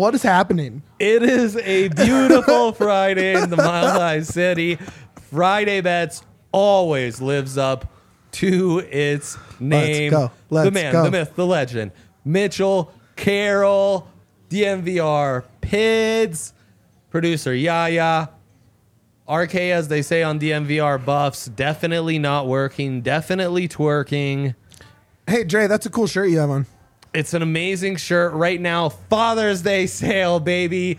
What is happening? It is a beautiful Friday in the Mile High City. Friday Bets always lives up to its name. Let's go. The man, the myth, the legend. Mitchell, Carroll, DNVR, Pids, producer Yaya, RK, as they say on DNVR Buffs, definitely not working, definitely twerking. Hey, Dre, that's a cool shirt you have on. It's an amazing shirt right now. Father's Day sale, baby.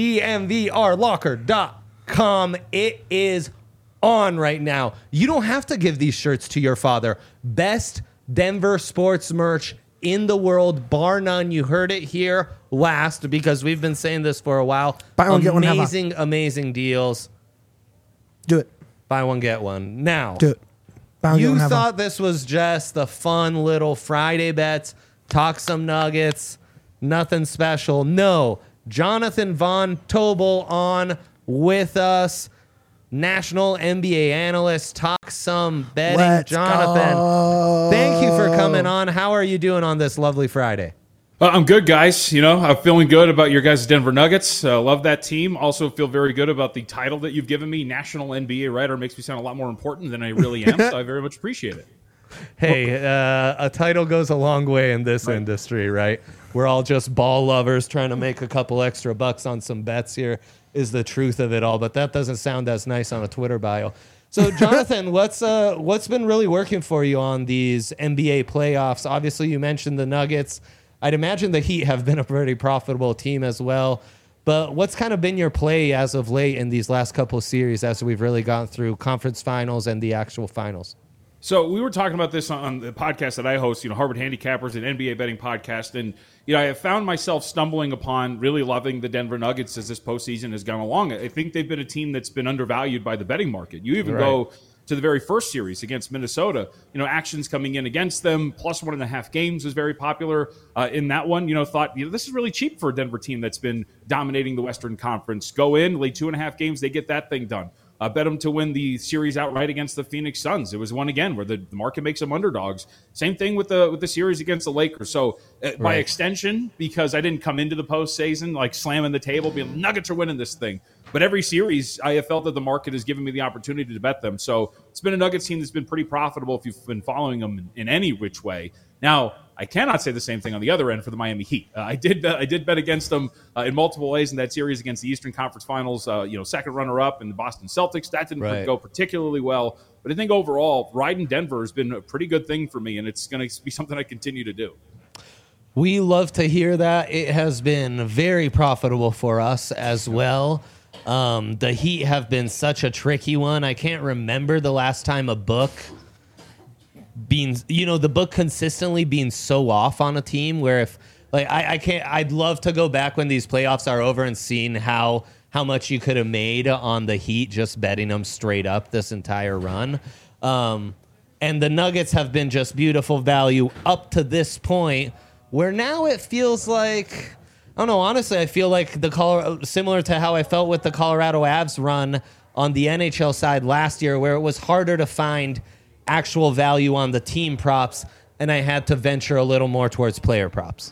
DNVRlocker.com. It is on right now. You don't have to give these shirts to your father. Best Denver sports merch in the world, bar none. You heard it here last because we've been saying this for a while. Buy one, get one, have amazing, amazing deals. Do it. Buy one, get one. Now, Do it. Buy one, get you one, have one. thought this was just the fun little Friday Bets, talk some Nuggets, nothing special. No, Jonathan Von Tobel on with us, national NBA analyst, talk some betting. Let's Jonathan, go. thank you for coming on. How are you doing on this lovely Friday? I'm good, guys. You know, I'm feeling good about your guys' Denver Nuggets. Love that team. Also feel very good about the title that you've given me. National NBA writer makes me sound a lot more important than I really am, so I very much appreciate it. Hey, a title goes a long way in this industry, right? We're all just ball lovers trying to make a couple extra bucks on some bets here is the truth of it all, but that doesn't sound as nice on a Twitter bio. So, Jonathan, what's been really working for you on these NBA playoffs? Obviously, you mentioned the Nuggets. I'd imagine the Heat have been a pretty profitable team as well. But what's kind of been your play as of late in these last couple of series as we've really gone through conference finals and the actual finals? So we were talking about this on the podcast that I host, Harvard Handicappers, an NBA betting podcast. And, I have found myself stumbling upon really loving the Denver Nuggets as this postseason has gone along. I think they've been a team that's been undervalued by the betting market. You even go to the very first series against Minnesota, actions coming in against them, plus 1.5 games was very popular in that one. Thought, this is really cheap for a Denver team that's been dominating the Western Conference. Go in, lay 2.5 games, they get that thing done. Bet them to win the series outright against the Phoenix Suns. It was one again where the market makes them underdogs. Same thing with the series against the Lakers. So by extension, because I didn't come into the postseason like slamming the table, being Nuggets are winning this thing. But every series, I have felt that the market has given me the opportunity to bet them. So it's been a Nuggets team that's been pretty profitable if you've been following them in any which way. Now, I cannot say the same thing on the other end for the Miami Heat. I did bet against them in multiple ways in that series against the Eastern Conference Finals. Second runner-up in the Boston Celtics. That didn't go particularly well. But I think overall, riding Denver has been a pretty good thing for me, and it's going to be something I continue to do. We love to hear that. It has been very profitable for us as well. The Heat have been such a tricky one. I can't remember the last time a book being, the book consistently being so off on a team where if I'd love to go back when these playoffs are over and seeing how much you could have made on the Heat just betting them straight up this entire run. And the Nuggets have been just beautiful value up to this point where now it feels like, I don't know, honestly, I feel like similar to how I felt with the Colorado Avs run on the NHL side last year where it was harder to find actual value on the team props, and I had to venture a little more towards player props.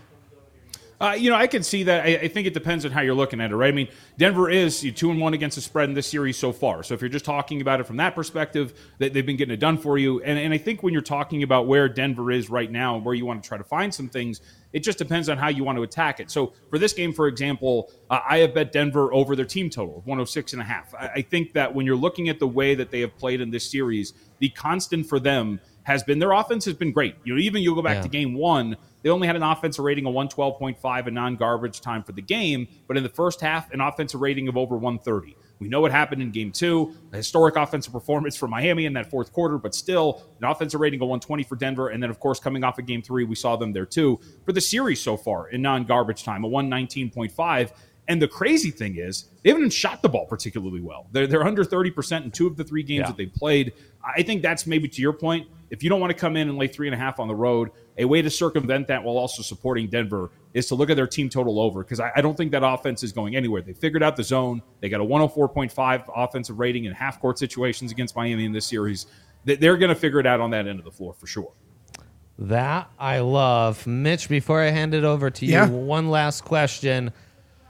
I can see that. I think it depends on how you're looking at it, right? I mean, Denver is 2-1 against the spread in this series so far. So if you're just talking about it from that perspective, they've been getting it done for you. And I think when you're talking about where Denver is right now and where you want to try to find some things, it just depends on how you want to attack it. So for this game, for example, I have bet Denver over their team total, 106.5. I think that when you're looking at the way that they have played in this series, the constant for them has been their offense has been great. Even you'll go back to game one, they only had an offensive rating of 112.5 and non-garbage time for the game, but in the first half, an offensive rating of over 130. We know what happened in game two, a historic offensive performance for Miami in that fourth quarter, but still an offensive rating of 120 for Denver. And then, of course, coming off of game three, we saw them there too. For the series so far in non-garbage time, a 119.5. And the crazy thing is, they haven't shot the ball particularly well. They're under 30% in 2 of the 3 games that they've played. I think that's maybe to your point. If you don't want to come in and lay 3.5 on the road, a way to circumvent that while also supporting Denver is to look at their team total over, because I don't think that offense is going anywhere. They figured out the zone. They got a 104.5 offensive rating in half-court situations against Miami in this series. They're going to figure it out on that end of the floor for sure. That I love. Mitch, before I hand it over to you, one last question.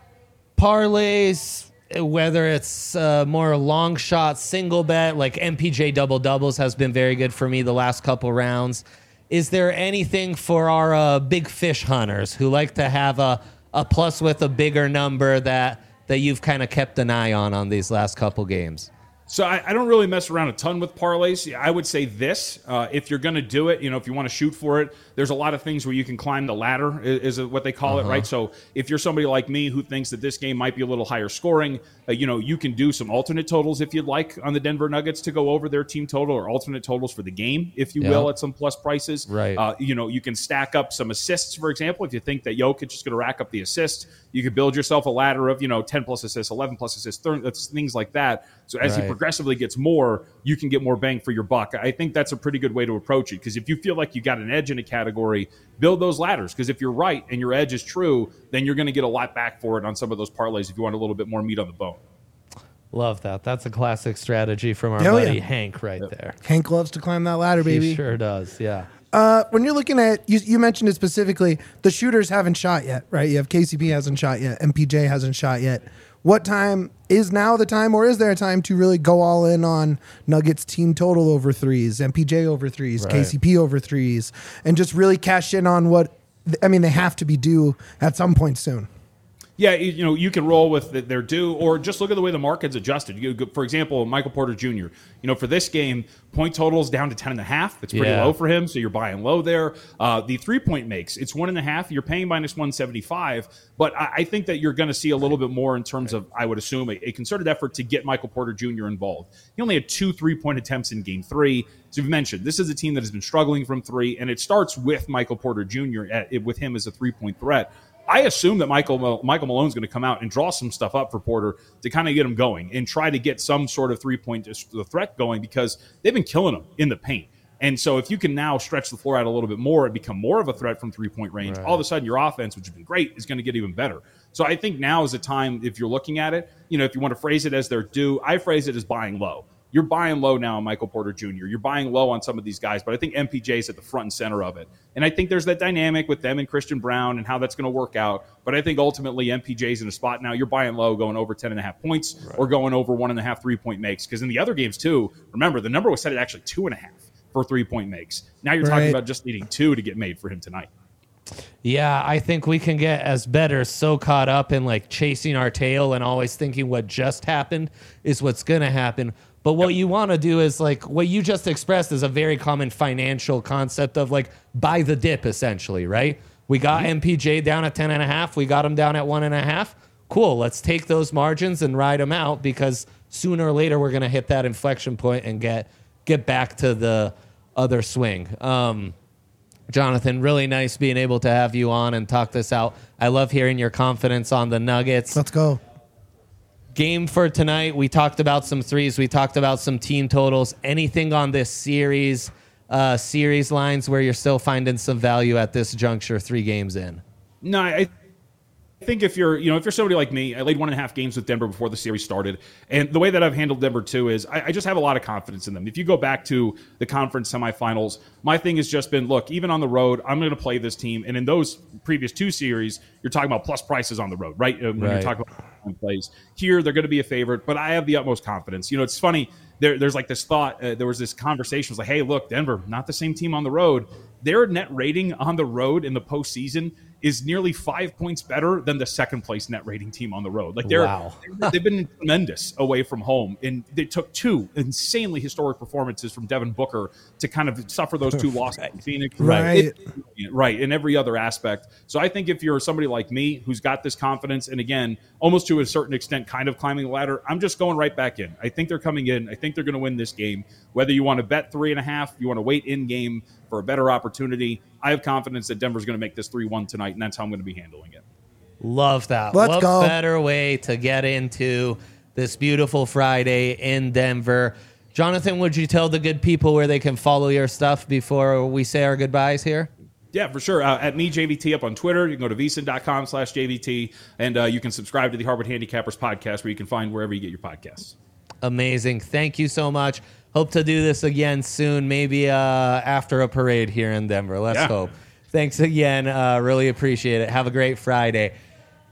parlays, whether it's more long shot single bet, like MPJ double doubles has been very good for me the last couple rounds. Is there anything for our big fish hunters who like to have a plus with a bigger number that you've kind of kept an eye on these last couple games? So I don't really mess around a ton with parlays. I would say this, if you're going to do it, if you want to shoot for it, there's a lot of things where you can climb the ladder, is what they call it, right? So if you're somebody like me who thinks that this game might be a little higher scoring, you can do some alternate totals if you'd like on the Denver Nuggets to go over their team total, or alternate totals for the game, if you will, at some plus prices. Right. You can stack up some assists, for example. If you think that Jokic is going to rack up the assists, you could build yourself a ladder of, 10 plus assists, 11 plus assists, things like that. So as he progressively gets more, you can get more bang for your buck. I think that's a pretty good way to approach it, because if you feel like you got an edge in a category, build those ladders, because if you're right and your edge is true, then you're going to get a lot back for it on some of those parlays if you want a little bit more meat on the bone. Love that. That's a classic strategy from our Hell buddy yeah. Hank right there. Hank loves to climb that ladder, baby. He sure does, yeah. When you're looking at, you mentioned it specifically, the shooters haven't shot yet, right? You have KCP hasn't shot yet, MPJ hasn't shot yet. What time is now the time, or is there a time to really go all in on Nuggets team total over threes, MPJ over threes, Right. KCP over threes, and just really cash in on what, they have to be due at some point soon? Yeah, you can roll with their due, or just look at the way the market's adjusted. For example, Michael Porter Jr., for this game, point totals down to 10.5. It's pretty low for him, so you're buying low there. The 3-point makes, it's 1.5. You're paying minus 175, but I think that you're going to see a little bit more in terms of, I would assume, a concerted effort to get Michael Porter Jr. involved. He only had 2 3-point attempts in Game 3. So you've mentioned, this is a team that has been struggling from 3, and it starts with Michael Porter Jr., with him as a 3-point threat. I assume that Michael Malone's going to come out and draw some stuff up for Porter to kind of get him going and try to get some sort of 3-point threat going, because they've been killing him in the paint. And so if you can now stretch the floor out a little bit more and become more of a threat from 3-point range, all of a sudden your offense, which has been great, is going to get even better. So I think now is a time, if you're looking at it, if you want to phrase it as their due, I phrase it as buying low. You're buying low now on Michael Porter Jr. You're buying low on some of these guys, but I think MPJ is at the front and center of it. And I think there's that dynamic with them and Christian Brown and how that's going to work out. But I think ultimately MPJ's in a spot now. You're buying low, going over 10.5 points, or going over 1.5 3-point makes. Because in the other games too, remember, the number was set at actually 2.5 for 3-point makes. Now you're talking about just needing 2 to get made for him tonight. Yeah, I think we can get as bettors so caught up in like chasing our tail and always thinking what just happened is what's going to happen. But what you want to do is, like, what you just expressed is a very common financial concept of, like, buy the dip, essentially, right? We got MPJ down at 10.5. We got him down at 1.5. Cool. Let's take those margins and ride them out, because sooner or later we're going to hit that inflection point and get back to the other swing. Jonathan, really nice being able to have you on and talk this out. I love hearing your confidence on the Nuggets. Let's go. Game for tonight, we talked about some threes. We talked about some team totals. Anything on this series lines where you're still finding some value at this juncture 3 games in? No, I think if you're somebody like me, I laid 1.5 games with Denver before the series started, and the way that I've handled Denver too is I just have a lot of confidence in them. If you go back to the conference semifinals, my thing has just been, look, even on the road, I'm going to play this team. And in those previous 2 series, you're talking about plus prices on the road, right? When you're talking about plays here, they're going to be a favorite, but I have the utmost confidence. It's funny. There's like this thought. There was this conversation. It was like, hey, look, Denver, not the same team on the road. Their net rating on the road in the postseason is nearly 5 points better than the second place net rating team on the road. Like they've been tremendous away from home, and they took 2 insanely historic performances from Devin Booker to kind of suffer those 2 losses in Phoenix. Right. Right, in every other aspect. So I think if you're somebody like me who's got this confidence, and again, almost to a certain extent, kind of climbing the ladder, I'm just going right back in. I think they're coming in. I think they're going to win this game. Whether you want to bet 3.5, you want to wait in game for a better opportunity, I have confidence that Denver's going to make this 3-1 tonight, and that's how I'm going to be handling it. Love that. Let's what go. better way to get into this beautiful Friday in Denver? Jonathan, would you tell the good people where they can follow your stuff before we say our goodbyes here? Yeah, for sure. At me, JVT, up on Twitter. You can go to vsin.com/JVT, and you can subscribe to the Harvard Handicappers podcast, where you can find wherever you get your podcasts. Amazing. Thank you so much. Hope to do this again soon, maybe after a parade here in Denver. Let's hope. Thanks again. Really appreciate it. Have a great Friday.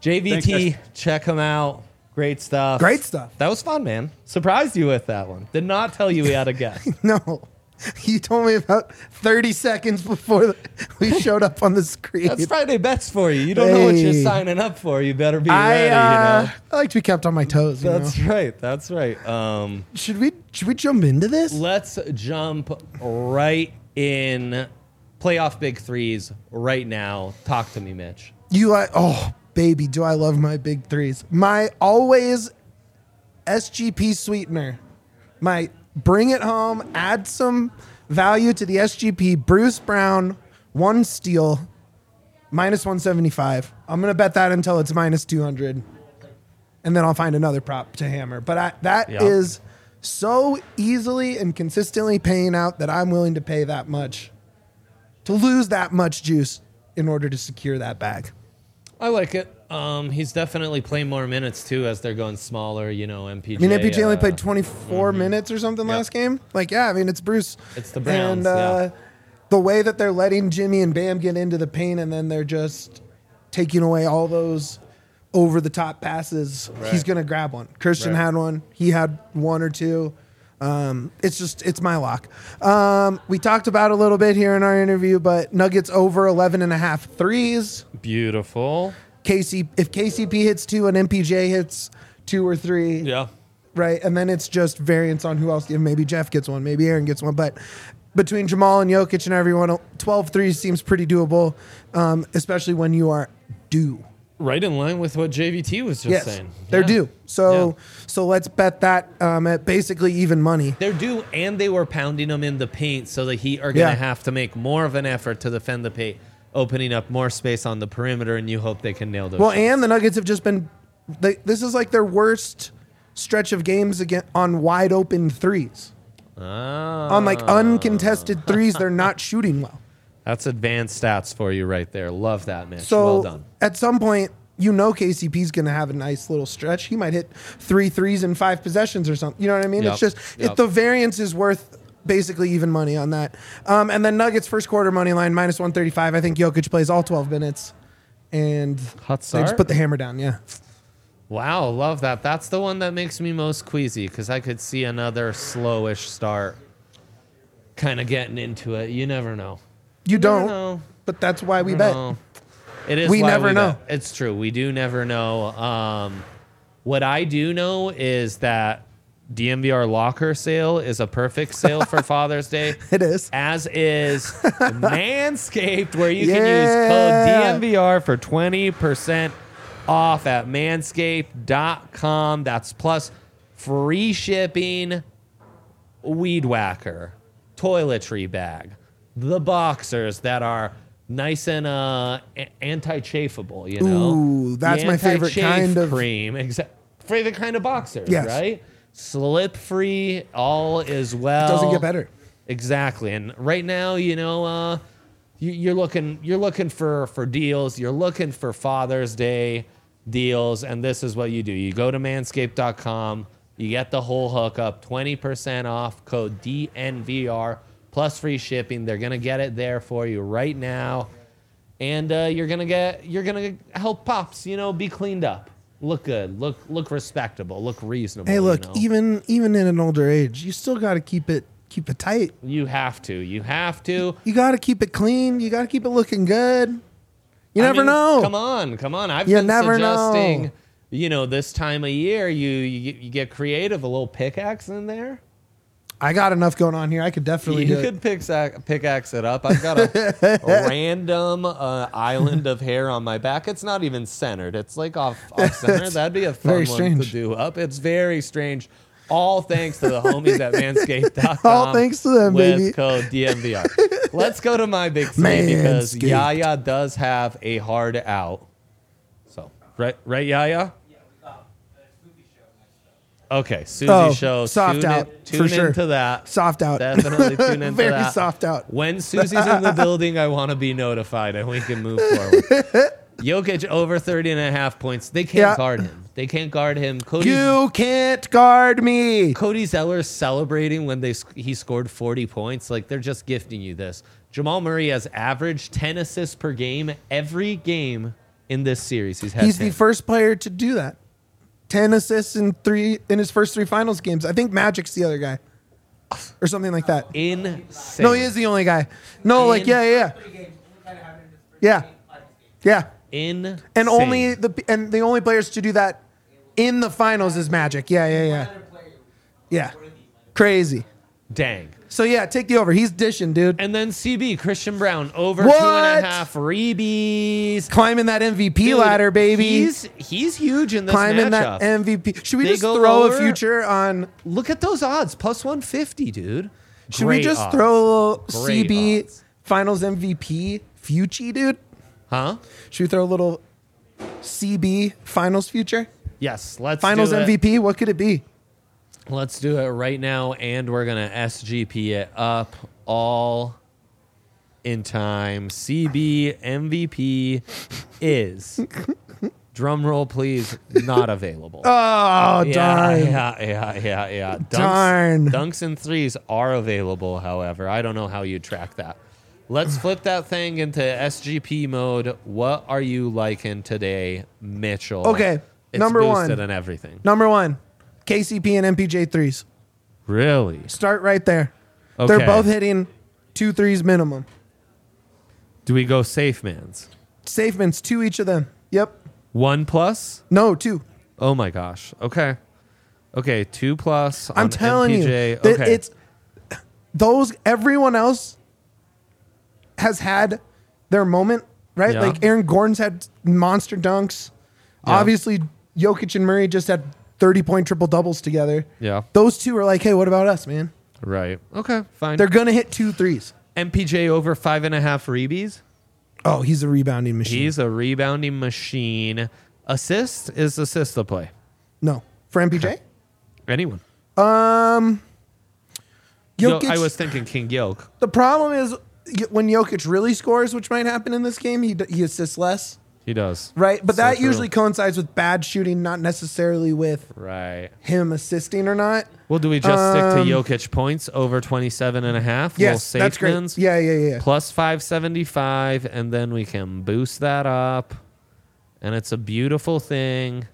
JVT, Thanks, check him out. Great stuff. Great stuff. That was fun, man. Surprised you with that one. Did not tell you we had a guest. No. You told me about 30 seconds before we showed up on the screen. That's Friday bets for you. You don't know what you're Hey. signing up for. You better be ready, you know. I like to be kept on my toes. That's right. That's right. Should we jump into this? Let's jump right in. Playoff big threes right now. Talk to me, Mitch. Oh baby, do I love my big threes? My always SGP sweetener. My bring it home, add some value to the SGP. Bruce Brown, 1 steal, minus 175. I'm gonna bet that until it's minus 200, and then I'll find another prop to hammer. But that Yep. is so easily and consistently paying out that I'm willing to pay that much to lose that much juice in order to secure that bag. I like it. He's definitely playing more minutes too as they're going smaller. You know, MPJ. I mean, MPJ only played 24 minutes or something last game. Like, yeah, I mean, it's Bruce. It's the Browns, And the way that they're letting Jimmy and Bam get into the paint and then they're just taking away all those over the top passes, he's going to grab one. Christian had one. He had 1 or 2. It's my lock. We talked about it a little bit here in our interview, but Nuggets over 11.5 threes. Beautiful. If KCP hits 2 and MPJ hits 2 or 3, Yeah. right? And then it's just variance on who else. Maybe Jeff gets one, maybe Aaron gets one. But between Jamal and Jokic and everyone, 12 threes seems pretty doable, especially when you are due. Right in line with what JVT was just Yes, saying. they're Yeah. due. So let's bet that at basically even money. They're due, and they were pounding them in the paint, so the Heat are going to Yeah. have to make more of an effort to defend the paint, opening up more space on the perimeter, and you hope they can nail those Well, shots. and the Nuggets have just been. This is like their worst stretch of games again on wide open threes. On like uncontested threes, they're not shooting well. That's advanced stats for you right there. Love that, Mitch. So well done. at some point, KCP's going to have a nice little stretch. He might hit 3 threes in 5 possessions or something. You know what I mean? Yep. It's just the variance is worth basically even money on that. And then Nuggets first quarter money line minus 135. I think Jokic plays all 12 minutes, and Hot they start? just put the hammer down. Yeah. Wow, love that. That's the one that makes me most queasy because I could see another slowish start kind of getting into it. You never know. You Never don't, know. but that's why we Never bet. know. It is. We why never know. bet. It's true. We do never know. What I do know is that DMVR locker sale is a perfect sale for Father's Day. It is. As is Manscaped, where you can Yeah. use code DMVR for 20% off at manscaped.com. That's plus free shipping, weed whacker, toiletry bag, the boxers that are nice and anti-chafable, you know? Ooh, that's The my favorite anti-chafe kind of- cream. Favorite kind of boxers, Yes. right? Slip-free, all is well. Doesn't get better. Exactly. And right now, you know, you're looking for deals. You're looking for Father's Day deals, and this is what you do. You go to manscaped.com. You get the whole hookup, 20% off, code DNVR, plus free shipping. They're gonna get it there for you right now, and you're gonna help pops, you know, be cleaned up, look good, look respectable, look reasonable. Hey, look, you know? even in an older age, you still got to keep it tight. You have to. You got to keep it clean. You got to keep it looking good. You I never mean, know. Come on. I've You been never suggesting, know. you know, this time of year, you get creative, a little pickaxe in there. I got enough going on here. I could definitely You do could it. pickaxe it up. I've got a random island of hair on my back. It's not even centered. It's like off center. That'd be a fun Very one strange. to do up. It's very strange. All thanks to the homies at manscaped.com. All thanks to them, with baby. code DMVR. Let's go to my big three because Manscaped. Yaya does have a hard out. So, right, Yaya? Okay, Susie show. soft Tune out, tune for sure. into that. Soft out. Definitely tune into Very that. soft out. When Susie's in the building, I want to be notified and we can move forward. Jokic over 30.5 points. They can't Yeah. guard him. They can't guard him. You can't guard me. Cody Zeller's celebrating when he scored 40 points. Like, they're just gifting you this. Jamal Murray has averaged 10 assists per game every game in this series. He's had He's 10. the first player to do that. 10 assists in his first 3 finals games. I think Magic's the other guy. Or something like that. Insane. No, he is the only guy. No, like yeah. Insane. And the only players to do that in the finals is Magic. Yeah. Crazy. Dang. So yeah, take the over. He's dishing, dude. And then CB, Christian Brown, over What? 2.5 rebies. Climbing that MVP Dude, ladder, baby. He's huge in this Climbing matchup. that MVP. Should we They just go throw lower? a future on? Look at those odds, plus 150, dude. Should we Great just odds. throw a little Great CB odds. Finals MVP future, dude? Huh? Should we throw a little CB Finals future? Yes, let's Finals do it. MVP? What could it be? Let's do it right now, and we're gonna SGP it up all in time. CB MVP is drum roll, please. Not available. Oh, darn. Yeah. Darn. Dunks and threes are available, however. I don't know how you track that. Let's flip that thing into SGP mode. What are you liking today, Mitchell? Okay, It's number one. boosted and everything. Number 1, KCP and MPJ threes. Really? Start right there. Okay. They're both hitting 2 threes minimum. Do we go safe mans? Safemans, 2 each of them. Yep. 1+? No, 2. Oh my gosh. Okay. 2+ on I'm telling MPJ. you, that Okay. it's those. Everyone else has had their moment, right? Yeah. Like Aaron Gordon's had monster dunks. Yeah. Obviously, Jokic and Murray just had 30-point triple doubles together. Yeah. Those two are like, hey, what about us, man? Right. Okay. Fine. They're gonna hit 2 threes. MPJ over 5.5 rebies. Oh, he's a rebounding machine. He's a rebounding machine. Assist is assist the play. No, for MPJ. Anyone. Jokic. I was thinking King Yoke. The problem is when Jokic really scores, which might happen in this game, he assists less, He does. right? But So that true. usually coincides with bad shooting, not necessarily with Right. him assisting or not. Well, do we just stick to Jokic points over 27.5? Yes, that's great. Mans? Yeah. Plus 575, and then we can boost that up. And it's a beautiful thing.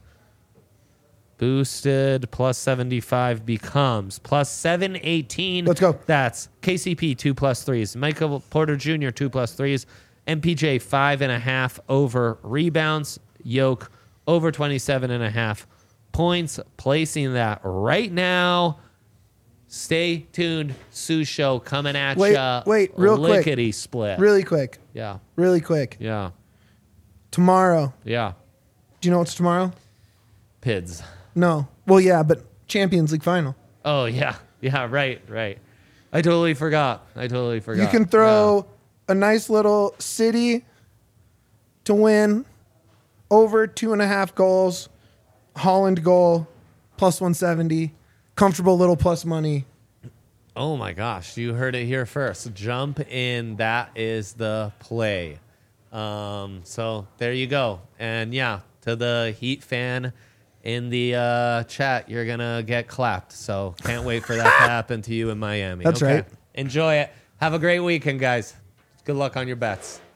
Boosted plus 75 becomes plus 718. Let's go. That's KCP 2+3s. Michael Porter Jr. 2+3s. MPJ 5.5 over rebounds. Yoke over 27.5 points. Placing that right now. Stay tuned. Sue Show coming at ya. Wait, real quick. Lickety split. Really quick. Yeah. Tomorrow. Yeah. Do you know what's tomorrow? PIDS. No. Well, yeah, but Champions League final. Oh, yeah. Yeah, right. I totally forgot. You can throw a nice little City to win over 2.5 goals, Holland goal, plus 170, comfortable little plus money. Oh, my gosh. You heard it here first. Jump in. That is the play. So there you go. And, yeah, to the Heat fan in the chat, you're going to get clapped. So can't wait for that to happen to you in Miami. That's right. Enjoy it. Have a great weekend, guys. Good luck on your bets.